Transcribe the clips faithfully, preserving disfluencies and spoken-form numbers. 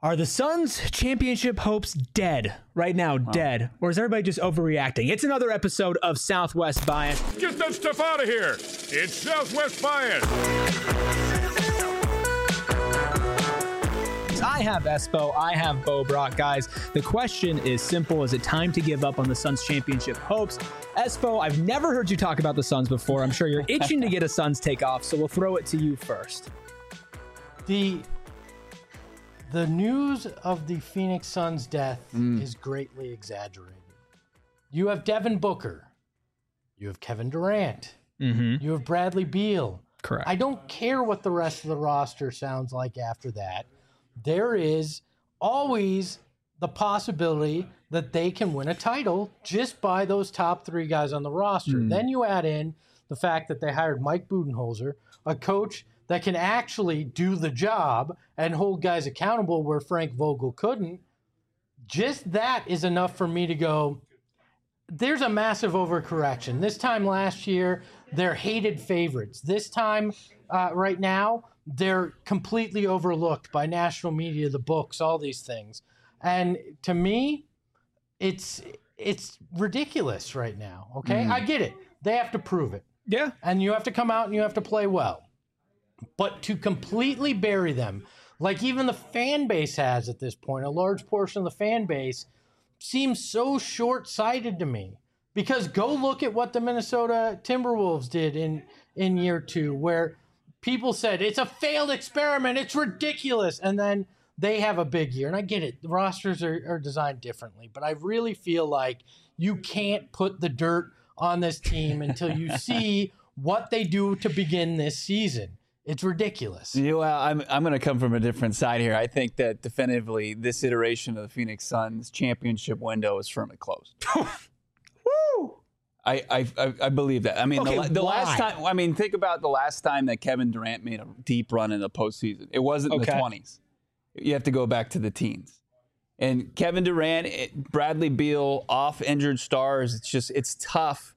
Are the Suns' championship hopes dead right now? Wow. Dead? Or is everybody just overreacting? It's another episode of Southwest Bias. Get that stuff out of here. It's Southwest Bias. I have Espo. I have Bo Brock. Guys, the question is simple. Is it time to give up on the Suns' championship hopes? Espo, I've never heard you talk about the Suns before. I'm sure you're itching to get a Suns takeoff, so we'll throw it to you first. The... The news of the Phoenix Suns' death mm. is greatly exaggerated. You have Devin Booker. You have Kevin Durant. Mm-hmm. You have Bradley Beal. Correct. I don't care what the rest of the roster sounds like after that. There is always the possibility that they can win a title just by those top three guys on the roster. Mm. Then you add in the fact that they hired Mike Budenholzer, a coach that can actually do the job and hold guys accountable where Frank Vogel couldn't. Just that is enough for me to go, there's a massive overcorrection. This time last year, they're hated favorites. This time, uh, right now, they're completely overlooked by national media, the books, all these things. And to me, it's it's ridiculous right now, okay? Mm. I get it. They have to prove it. Yeah. And you have to come out and you have to play well. But to completely bury them, like even the fan base has at this point, a large portion of the fan base seems so short-sighted to me. Because go look at what the Minnesota Timberwolves did in, in year two, where people said, it's a failed experiment, it's ridiculous. And then they have a big year. And I get it, the rosters are, are designed differently. But I really feel like you can't put the dirt on this team until you see what they do to begin this season. It's ridiculous. Yeah, well, I'm I'm going to come from a different side here. I think that definitively this iteration of the Phoenix Suns championship window is firmly closed. Woo! I, I I believe that. I mean, okay, the, the why? last time. I mean, think about the last time that Kevin Durant made a deep run in the postseason. It wasn't in okay. the twenties. You have to go back to the teens. And Kevin Durant, it, Bradley Beal, off injured stars. It's just it's tough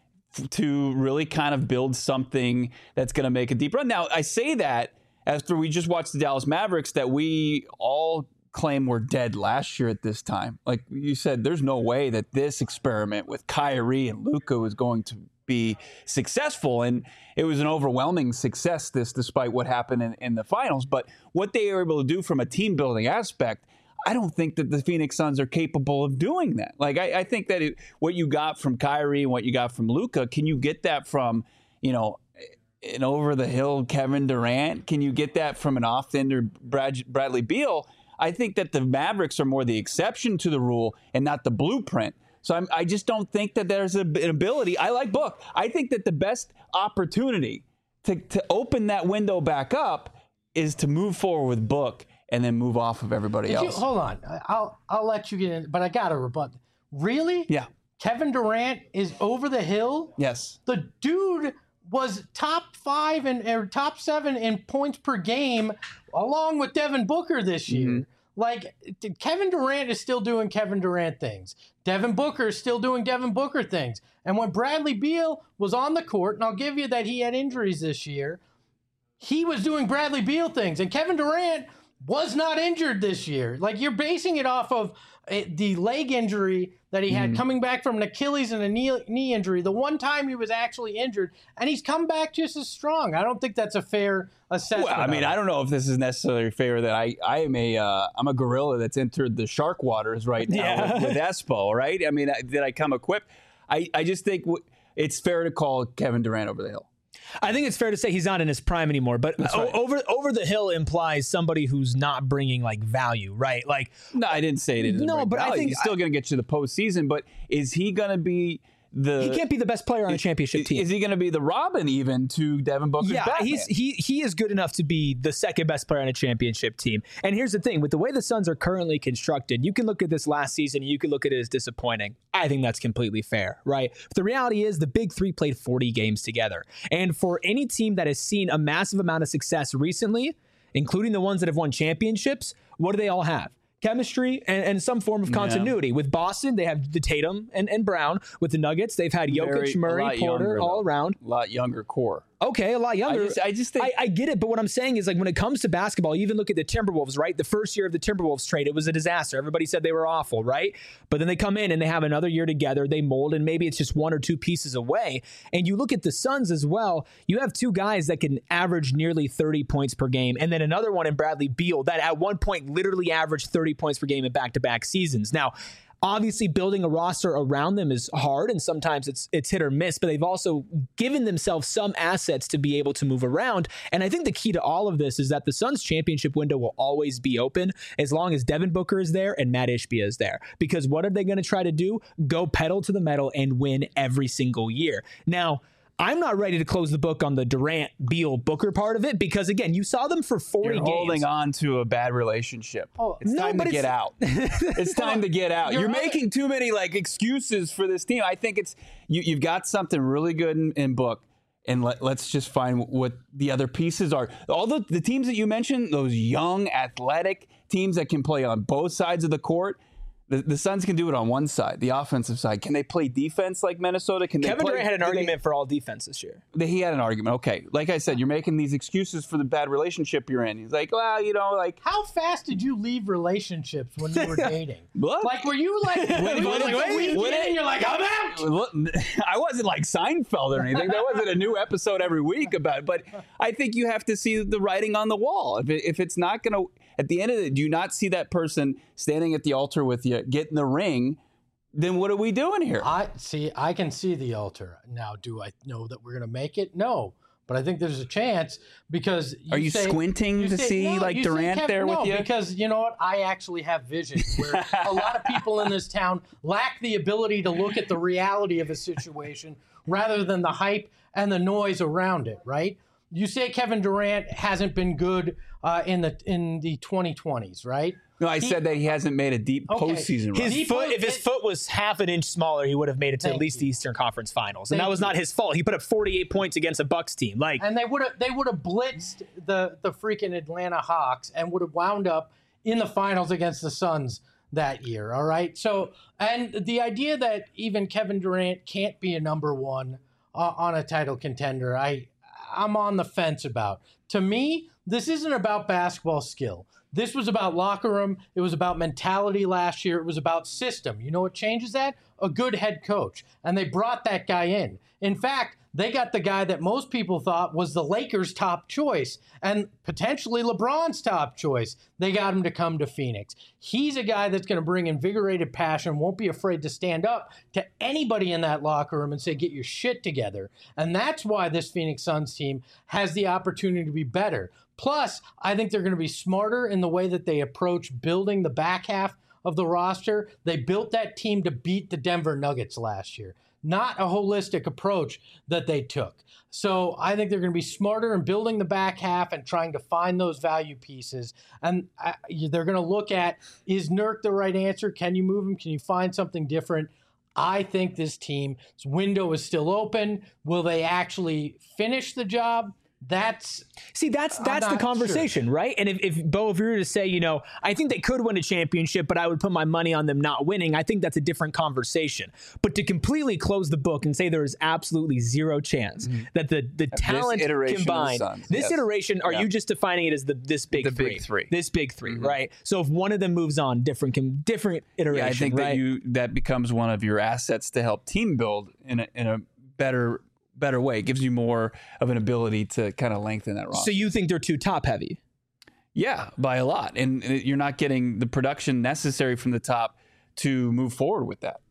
to really kind of build something that's going to make a deep run. Now, I say that after we just watched the Dallas Mavericks that we all claim were dead last year at this time. Like you said, there's no way that this experiment with Kyrie and Luka was going to be successful. And it was an overwhelming success, this, despite what happened in, in the finals. But what they were able to do from a team building aspect, I don't think that the Phoenix Suns are capable of doing that. Like, I, I think that it, what you got from Kyrie and what you got from Luka, can you get that from, you know, an over-the-hill Kevin Durant? Can you get that from an off-ender Brad, Bradley Beal? I think that the Mavericks are more the exception to the rule and not the blueprint. So I'm, I just don't think that there's a, an ability. I like Book. I think that the best opportunity to, to open that window back up is to move forward with Book and then move off of everybody Did else. You, hold on. I'll I'll let you get in, but I got to rebut. Really? Yeah. Kevin Durant is over the hill? Yes. The dude was top five and or top seven in points per game along with Devin Booker this year. Mm-hmm. Like, Kevin Durant is still doing Kevin Durant things. Devin Booker is still doing Devin Booker things. And when Bradley Beal was on the court, and I'll give you that he had injuries this year, he was doing Bradley Beal things. And Kevin Durant was not injured this year. Like, you're basing it off of uh, the leg injury that he had mm. coming back from an Achilles and a knee, knee injury, the one time he was actually injured, and he's come back just as strong. I don't think that's a fair assessment. Well, I mean, I don't know if this is necessarily fair that I, I am a, uh, I'm a gorilla that's entered the shark waters right now yeah. with, with Espo, right? I mean, did I come equipped? I, I just think w- it's fair to call Kevin Durant over the hill. I think it's fair to say he's not in his prime anymore, but right. o- over over the hill implies somebody who's not bringing like value, right? Like, no, I didn't say it. Didn't no, but value. I think he's still going to get you the postseason. But is he going to be the? He can't be the best player on a championship is, team. Is he going to be the Robin even to Devin Booker's Yeah, Batman? he's he he is good enough to be the second best player on a championship team. And here's the thing: with the way the Suns are currently constructed, you can look at this last season and you can look at it as disappointing. I think that's completely fair, right? But the reality is the big three played forty games together. And for any team that has seen a massive amount of success recently, including the ones that have won championships, what do they all have? Chemistry and, and some form of continuity. Yeah. With Boston, they have the Tatum and, and Brown. With the Nuggets, they've had Jokic, Very, Murray, Porter younger, all though. around. A lot younger core. Okay, a lot younger. I just, I just think I, I get it, but what I'm saying is, like, when it comes to basketball, you even look at the Timberwolves, right? The first year of the Timberwolves trade, it was a disaster. Everybody said they were awful, right? But then they come in and they have another year together. They mold, and maybe it's just one or two pieces away. And you look at the Suns as well. You have two guys that can average nearly thirty points per game, and then another one in Bradley Beal that at one point literally averaged thirty points per game in back-to-back seasons. Now, obviously, building a roster around them is hard, and sometimes it's it's hit or miss, but they've also given themselves some assets to be able to move around. And I think the key to all of this is that the Suns championship window will always be open as long as Devin Booker is there and Matt Ishbia is there. Because what are they going to try to do? Go pedal to the metal and win every single year. Now, I'm not ready to close the book on the Durant, Beal, Booker part of it because, again, you saw them for forty You're games. holding on to a bad relationship. Oh, it's no, time but to it's- get out. It's time to get out. You're You're right. making too many like excuses for this team. I think it's you, you've got something really good in, in Book, and let, let's just find what the other pieces are. All the, the teams that you mentioned, those young, athletic teams that can play on both sides of the court. The, the Suns can do it on one side, the offensive side. Can they play defense like Minnesota? Can they Kevin play, Durant had an do argument they, for all defense this year. He had an argument. Okay, like I said, you're making these excuses for the bad relationship you're in. He's like, well, you know, like How fast did you leave relationships when you were dating? What? Like, were you like, were you what- like what- a week what- in and you're like, I'm out? Look, I wasn't like Seinfeld or anything. There wasn't a new episode every week about it. But I think you have to see the writing on the wall. If, it, if it's not going to, at the end of it, do you not see that person standing at the altar with you, get in the ring, then what are we doing here? I see. I can see the altar now. Do I know that we're gonna make it? No, but I think there's a chance because you Are you say- squinting you to say- see no, like you say Durant Kev- there no, with you? Because you know what? I actually have vision. Where a lot of people in this town lack the ability to look at the reality of a situation rather than the hype and the noise around it. Right? You say Kevin Durant hasn't been good uh, in the in the twenty twenties, right? No, I He- said that he hasn't made a deep Okay. postseason run. His He foot, put- if his it- foot was half an inch smaller, he would have made it to Thank at least you. the Eastern Conference Finals, and Thank that was you. not his fault. He put up forty-eight points against a Bucks team. Like, And they would have they would have blitzed the the freaking Atlanta Hawks and would have wound up in the finals against the Suns that year. All right. So and the idea that even Kevin Durant can't be a number one uh, on a title contender, I I'm on the fence about. To me, this isn't about basketball skill. This was about locker room. It was about mentality last year. It was about system. You know what changes that? A good head coach. And they brought that guy in. In fact, they got the guy that most people thought was the Lakers' top choice and potentially LeBron's top choice. They got him to come to Phoenix. He's a guy that's going to bring invigorated passion, won't be afraid to stand up to anybody in that locker room and say, get your shit together. And that's why this Phoenix Suns team has the opportunity to be better. Plus, I think they're going to be smarter in the way that they approach building the back half of the roster. They built that team to beat the Denver Nuggets last year, not a holistic approach that they took. So I think they're going to be smarter in building the back half and trying to find those value pieces. And I, they're going to look at, is Nurk the right answer? Can you move him? Can you find something different? I think this team's window is still open. Will they actually finish the job? That's see, that's that's the not conversation, right? And if, if Bo, if you were to say, you know, I think they could win a championship, but I would put my money on them not winning, I think that's a different conversation. But to completely close the book and say there is absolutely zero chance mm-hmm. that the the talent iteration of the combined, Suns, this yes. iteration, are Yeah. you just defining it as the this big The three? big three. This big three, Mm-hmm. right? So if one of them moves on, different different iteration, Yeah, I think right? that you that becomes one of your assets to help team build in a in a better better way. It gives you more of an ability to kind of lengthen that roster. So you think they're too top heavy? Yeah, by a lot. And you're not getting the production necessary from the top to move forward with that.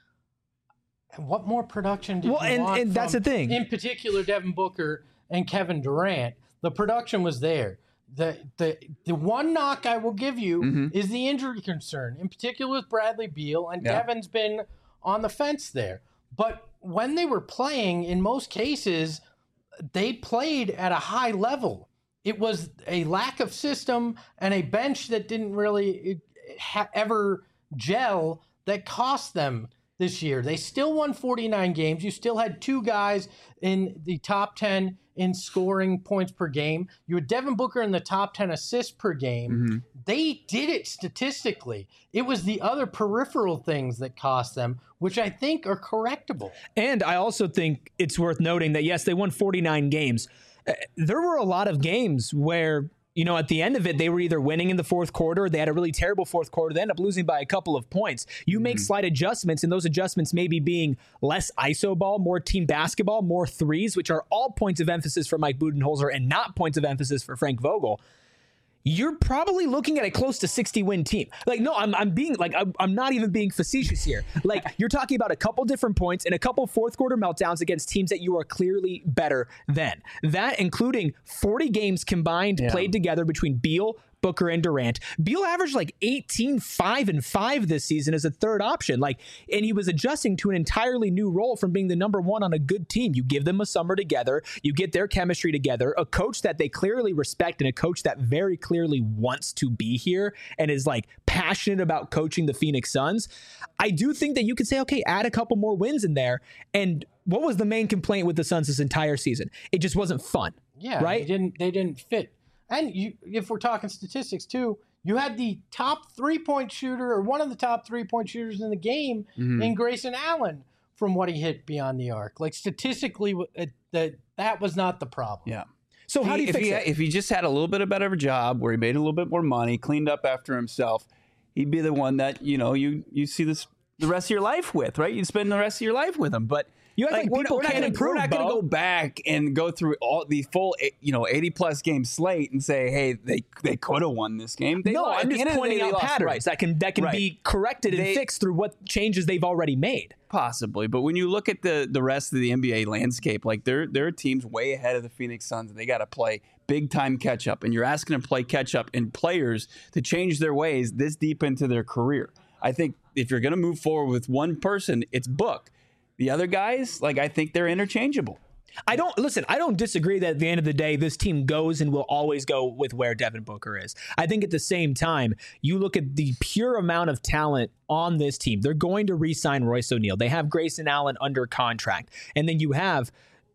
what more production did Well, you and- want and that's from, the thing. in particular, Devin Booker and Kevin Durant. The production was there. The the the one knock I will give you Mm-hmm. is the injury concern, in particular with Bradley Beal, and Yeah. Devin's been on the fence there. But when they were playing, in most cases, they played at a high level. It was a lack of system and a bench that didn't really ha- ever gel that cost them this year. They still won forty-nine games. You still had two guys in the top ten in scoring points per game. You had Devin Booker in the top ten assists per game. Mm-hmm. They did it statistically. It was the other peripheral things that cost them, which I think are correctable. And I also think it's worth noting that, yes, they won forty-nine games. Uh, there were a lot of games where, you know, at the end of it, they were either winning in the fourth quarter, they had a really terrible fourth quarter, they end up losing by a couple of points. You make Mm-hmm. slight adjustments, and those adjustments maybe being less iso ball, more team basketball, more threes, which are all points of emphasis for Mike Budenholzer and not points of emphasis for Frank Vogel. You're probably looking at a close to sixty win team. Like, no, I'm I'm being like, I'm, I'm not even being facetious here. Like, you're talking about a couple different points and a couple fourth quarter meltdowns against teams that you are clearly better than. That including forty games combined Yeah. played together between Beal, Booker, and Durant. Beal averaged like eighteen, five, and five this season as a third option. Like, and he was adjusting to an entirely new role from being the number one on a good team. You give them a summer together, you get their chemistry together, a coach that they clearly respect and a coach that very clearly wants to be here and is like passionate about coaching the Phoenix Suns. I do think that you could say, okay, add a couple more wins in there. And what was the main complaint with the Suns this entire season? It just wasn't fun. Yeah, right? They didn't they didn't fit. And you, if we're talking statistics too, you had the top three-point shooter or one of the top three-point shooters in the game Mm-hmm. in Grayson Allen from what he hit beyond the arc. Like statistically, it, that that was not the problem. Yeah. So how do you if fix he, it? If he just had a little bit of better of a job where he made a little bit more money, cleaned up after himself, he'd be the one that, you know, you, you see this the rest of your life with, right? You'd spend the rest of your life with him. But You act like we're, people we're not can't gonna, improve, We're not going to Bo. go back and go through all the full, you know, eighty plus game slate and say, hey, they they could have won this game. They No, lost. At I'm the just end of the pointing day, they out lost. patterns Right. that can that can Right. be corrected and They- fixed through what changes they've already made. Possibly, but when you look at the the rest of the N B A landscape, like there there are teams way ahead of the Phoenix Suns, and they got to play big time catch up. And you're asking them to play catch up and players to change their ways this deep into their career. I think if you're going to move forward with one person, it's Book. The other guys, like I think they're interchangeable. I don't listen. I don't disagree that at the end of the day, this team goes and will always go with where Devin Booker is. I think at the same time, you look at the pure amount of talent on this team. They're going to re-sign Royce O'Neal. They have Grayson Allen under contract, and then you have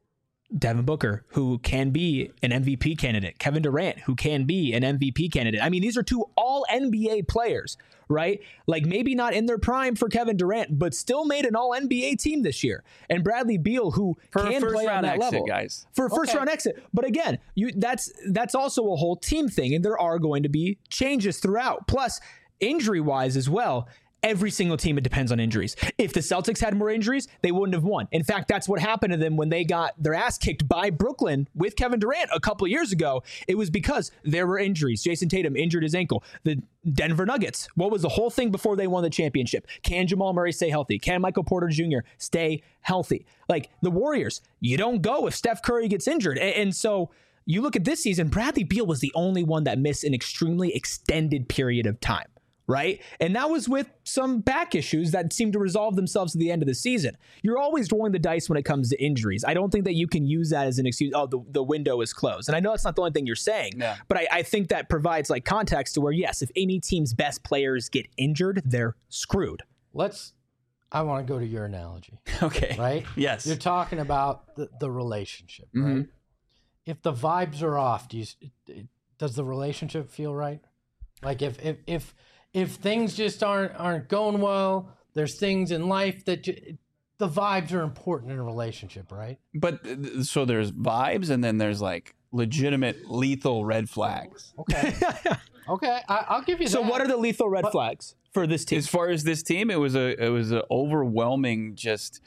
Devin Booker, who can be an M V P candidate. Kevin Durant, who can be an M V P candidate. I mean, these are two all N B A players, right? Like maybe not in their prime for Kevin Durant, but still made an all N B A team this year. And Bradley Beal, who For a can first play on round that exit, level. guys. For a first Okay. round exit. But again, you that's that's also a whole team thing, and there are going to be changes throughout. Plus, injury-wise as well, every single team, it depends on injuries. If the Celtics had more injuries, they wouldn't have won. In fact, that's what happened to them when they got their ass kicked by Brooklyn with Kevin Durant a couple of years ago. It was because there were injuries. Jason Tatum injured his ankle. The Denver Nuggets, what was the whole thing before they won the championship? Can Jamal Murray stay healthy? Can Michael Porter Junior stay healthy? Like the Warriors, you don't go if Steph Curry gets injured. And, and so you look at this season, Bradley Beal was the only one that missed an extremely extended period of time. Right? And that was with some back issues that seemed to resolve themselves at the end of the season. You're always rolling the dice when it comes to injuries. I don't think that you can use that as an excuse. Oh, the, the window is closed. And I know that's not the only thing you're saying, Yeah. but I, I think that provides like context to where, yes, if any team's best players get injured, they're screwed. Let's. I want to go to your analogy, Okay. right? Yes. You're talking about the, the relationship, right? Mhm. If the vibes are off, do you, does the relationship feel right? Like if if if if things just aren't aren't going well, there's things in life that ju- the vibes are important in a relationship, right? But uh, so there's vibes, and then there's like legitimate lethal red flags. Okay, okay, I, I'll give you So that. what are the lethal red But- flags for this team? As far as this team, it was a it was an overwhelming just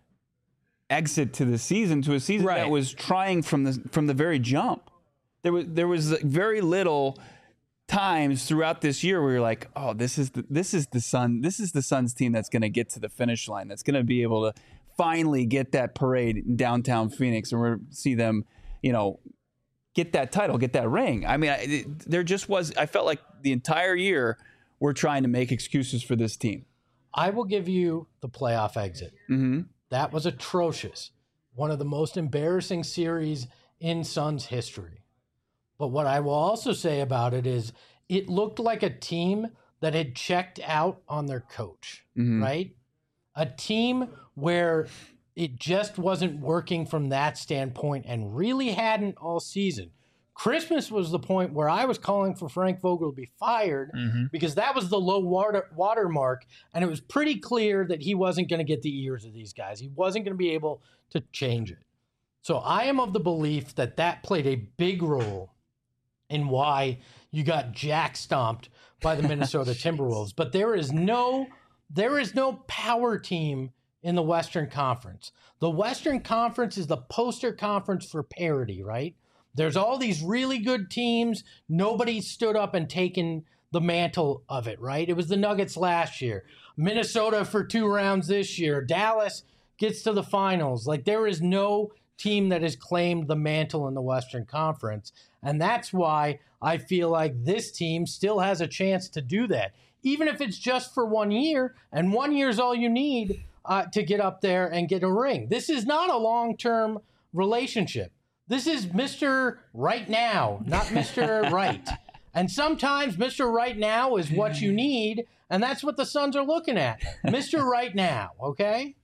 exit to the season to a season Right. that was trying from the from the very jump. There was there was very little times throughout this year where you're like, oh, this is the this is the Sun this is the Suns team that's going to get to the finish line. That's going to be able to finally get that parade in downtown Phoenix, and we're see them, you know, get that title, get that ring. I mean, I, it, there just was. I felt like the entire year we're trying to make excuses for this team. I will give you the playoff exit. Mm-hmm. That was atrocious. One of the most embarrassing series in Suns history. But what I will also say about it is it looked like a team that had checked out on their coach, Mhm. right? A team where it just wasn't working from that standpoint and really hadn't all season. Christmas was the point where I was calling for Frank Vogel to be fired mm-hmm. because that was the low water watermark, and it was pretty clear that he wasn't going to get the ears of these guys. He wasn't going to be able to change it. So I am of the belief that that played a big role in why you got jack stomped by the Minnesota Timberwolves. But there is no there is no power team in the Western Conference. The Western Conference is the poster conference for parity, right? There's all these really good teams. Nobody stood up and taken the mantle of it, right? It was the Nuggets last year. Minnesota for two rounds this year. Dallas gets to the finals. Like, there is no team that has claimed the mantle in the Western Conference. And that's why I feel like this team still has a chance to do that. Even if it's just for one year, and one year is all you need uh, to get up there and get a ring. This is not a long-term relationship. This is Mister Right Now, not Mister Right. And sometimes Mister Right Now is what you need, and that's what the Suns are looking at. Mister Right Now, okay?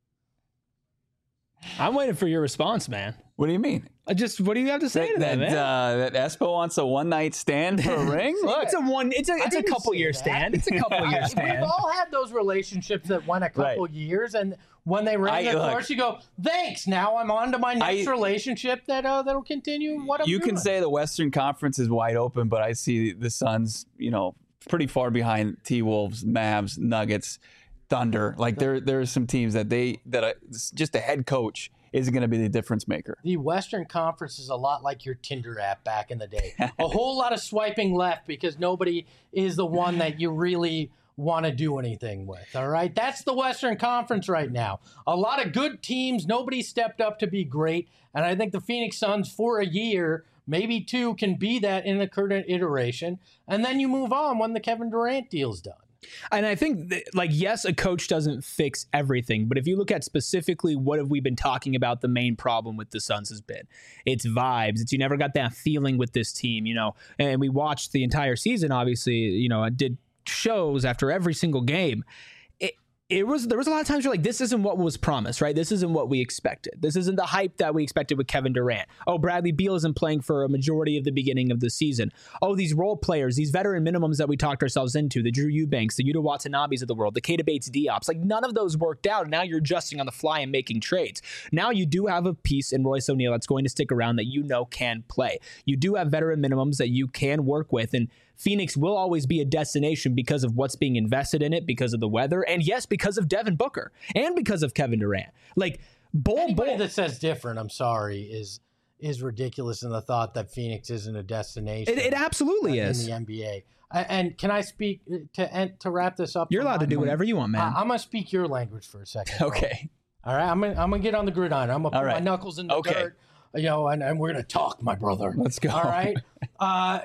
I'm waiting for your response, man. What do you mean? I just, what do you have to say that, to that, that, man? Uh, that Espo wants a one night stand for a ring? Look, it's a one. It's a it's a couple year that. stand. It's a couple year stand. We've all had those relationships that went a couple right. years, and when they ran the course, you go, "Thanks." Now I'm on to my next I, relationship that uh, that'll continue. What I'm you doing. can say the Western Conference is wide open, but I see the Suns, you know, pretty far behind T-Wolves, Mavs, Nuggets, Thunder. Like there, there are some teams that they that are, just a head coach is going to be the difference maker. The Western Conference is a lot like your Tinder app back in the day. A whole lot of swiping left because nobody is the one that you really want to do anything with, all right? That's the Western Conference right now. A lot of good teams. Nobody stepped up to be great. And I think the Phoenix Suns for a year, maybe two, can be that in the current iteration. And then you move on when the Kevin Durant deal's done. And I think, that, like, yes, a coach doesn't fix everything. But if you look at specifically what have we been talking about, the main problem with the Suns has been, it's vibes. It's you never got that feeling with this team, you know. And we watched the entire season, obviously, you know, I did shows after every single game. It, it was there was a lot of times you're like, this isn't what was promised, right? This isn't what we expected. This isn't the hype that we expected with Kevin Durant. Oh, Bradley Beal isn't playing for a majority of the beginning of the season. Oh, these role players, these veteran minimums that we talked ourselves into, the Drew Eubanks, the Yuta Watanabes of the world, the Keita Bates Diops, like none of those worked out. And now you're adjusting on the fly and making trades. Now you do have a piece in Royce O'Neal that's going to stick around that you know can play. You do have veteran minimums that you can work with, and Phoenix will always be a destination because of what's being invested in it, because of the weather, and yes, because of Devin Booker, and because of Kevin Durant. Like, Bull, Anybody Bull, that says different, I'm sorry, is is ridiculous in the thought that Phoenix isn't a destination. It, it absolutely in is. In the N B A. And can I speak, to to wrap this up? You're allowed to do whatever you want, man. I'm going to speak your language for a second. Okay. All right, I'm going I'm to get on the gridiron. I'm going to put right. my knuckles in the okay. dirt, you know, and, and we're going to talk, my brother. Let's go. All right. Uh,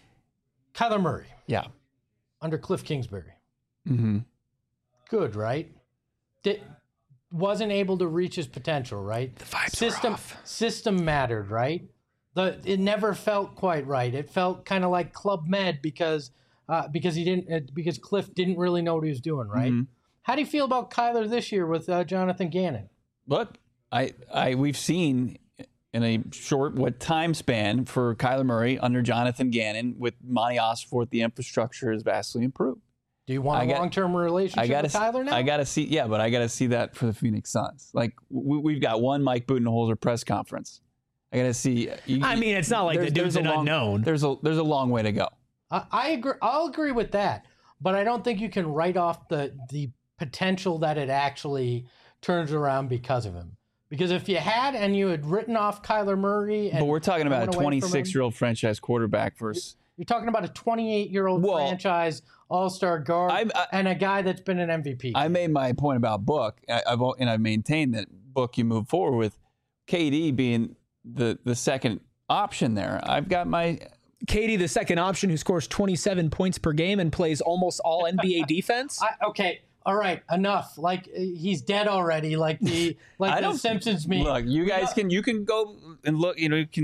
Kyler Murray. Yeah. Under Cliff Kingsbury. Mm-hmm. Good, right? Did, wasn't able to reach his potential, right? The vibes system, were off. System mattered, right? The It never felt quite right. It felt kind of like Club Med because uh, because he didn't uh, because Cliff didn't really know what he was doing, right? Mm-hmm. How do you feel about Kyler this year with uh, Jonathan Gannon? Look, I, I, we've seen in a short what time span for Kyler Murray under Jonathan Gannon with Monty Osforth, the infrastructure has vastly improved. Do you want I a got, long-term relationship I gotta, with Kyler now? I got to see, yeah, but I got to see that for the Phoenix Suns. Like we, we've got one Mike Budenholzer press conference. I got to see. You, I mean, it's not like the dude's an long, unknown. There's a there's a long way to go. I, I agree. I'll agree with that, but I don't think you can write off the the potential that it actually turns around because of him. Because if you had and you had written off Kyler Murray, and but we're talking about a twenty-six-year-old him, franchise quarterback versus. You're talking about a twenty-eight-year-old well, franchise all-star guard I, I, and a guy that's been an M V P. I made my point about Book, I, I've and I've maintained that Book you move forward with K D being the the second option there. I've got my K D, the second option, who scores twenty-seven points per game and plays almost all N B A defense. I, okay. All right, enough. Like he's dead already. Like the like I the don't, Simpsons meme. Look, you guys can you can go and look. You know, you can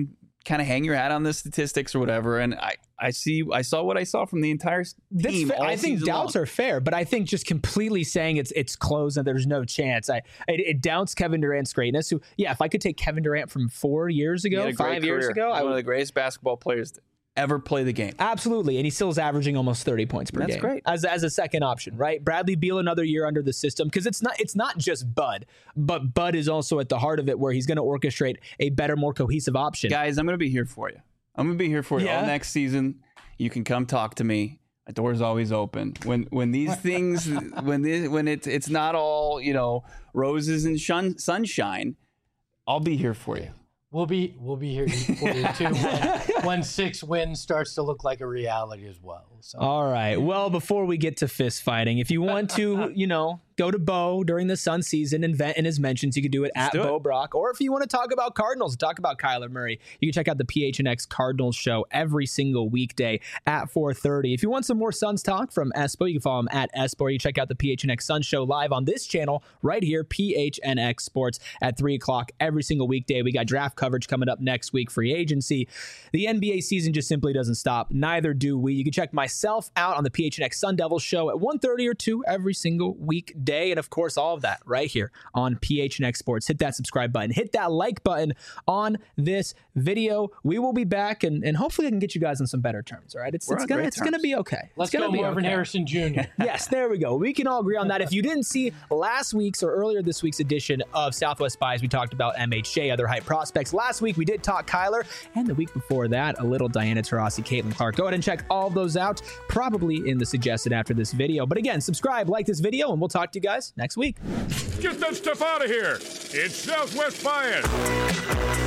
kind of hang your hat on the statistics or whatever. And I, I see, I saw what I saw from the entire team. All I think doubts long. are fair, but I think just completely saying it's it's closed and there's no chance. I it, it doubts Kevin Durant's greatness. Who, yeah, if I could take Kevin Durant from four years ago, five years ago, I I one would, of the greatest basketball players to ever play the game. Absolutely, and he still is averaging almost thirty points per That's game. That's great. As as a second option, right? Bradley Beal another year under the system because it's not it's not just Bud, but Bud is also at the heart of it where he's going to orchestrate a better, more cohesive option. Guys, I'm going to be here for you. I'm going to be here for you Yeah. all next season. You can come talk to me. My door's always open. When when these things when this, when it's it's not all, you know, roses and shun, sunshine, I'll be here for you. We'll be we'll be here for you too when, when six wins starts to look like a reality as well. So. All right. Well, before we get to fist fighting, if you want to, you know, go to Bo during the Sun season and vent in his mentions, you can do it Let's at do Bo it. Brock. Or if you want to talk about Cardinals, talk about Kyler Murray, you can check out the P H N X Cardinals show every single weekday at four thirty. If you want some more Suns talk from Espo, you can follow him at Espo. Or you check out the P H N X Suns show live on this channel right here, P H N X Sports at three o'clock every single weekday. We got draft coverage coming up next week, free agency. The N B A season just simply doesn't stop. Neither do we. You can check myself out on the P H N X Sun Devils show at one thirty or two every single weekday. And of course, all of that right here on P H N X Sports. Hit that subscribe button. Hit that like button on this video. We will be back, and, and hopefully I can get you guys on some better terms. All right, it's, We're it's on gonna great it's gonna terms. be okay. Let's it's gonna go, be Marvin okay. Harrison Junior Yes, there we go. We can all agree on that. If you didn't see last week's or earlier this week's edition of Southwest Spies, we talked about M H J, other hype prospects. Last week we did talk Kyler, and the week before that, a little Diana Taurasi, Caitlin Clark. Go ahead and check all of those out, probably in the suggested after this video. But again, subscribe, like this video, and we'll talk to you guys next week. Get that stuff out of here. It's Southwest Bias.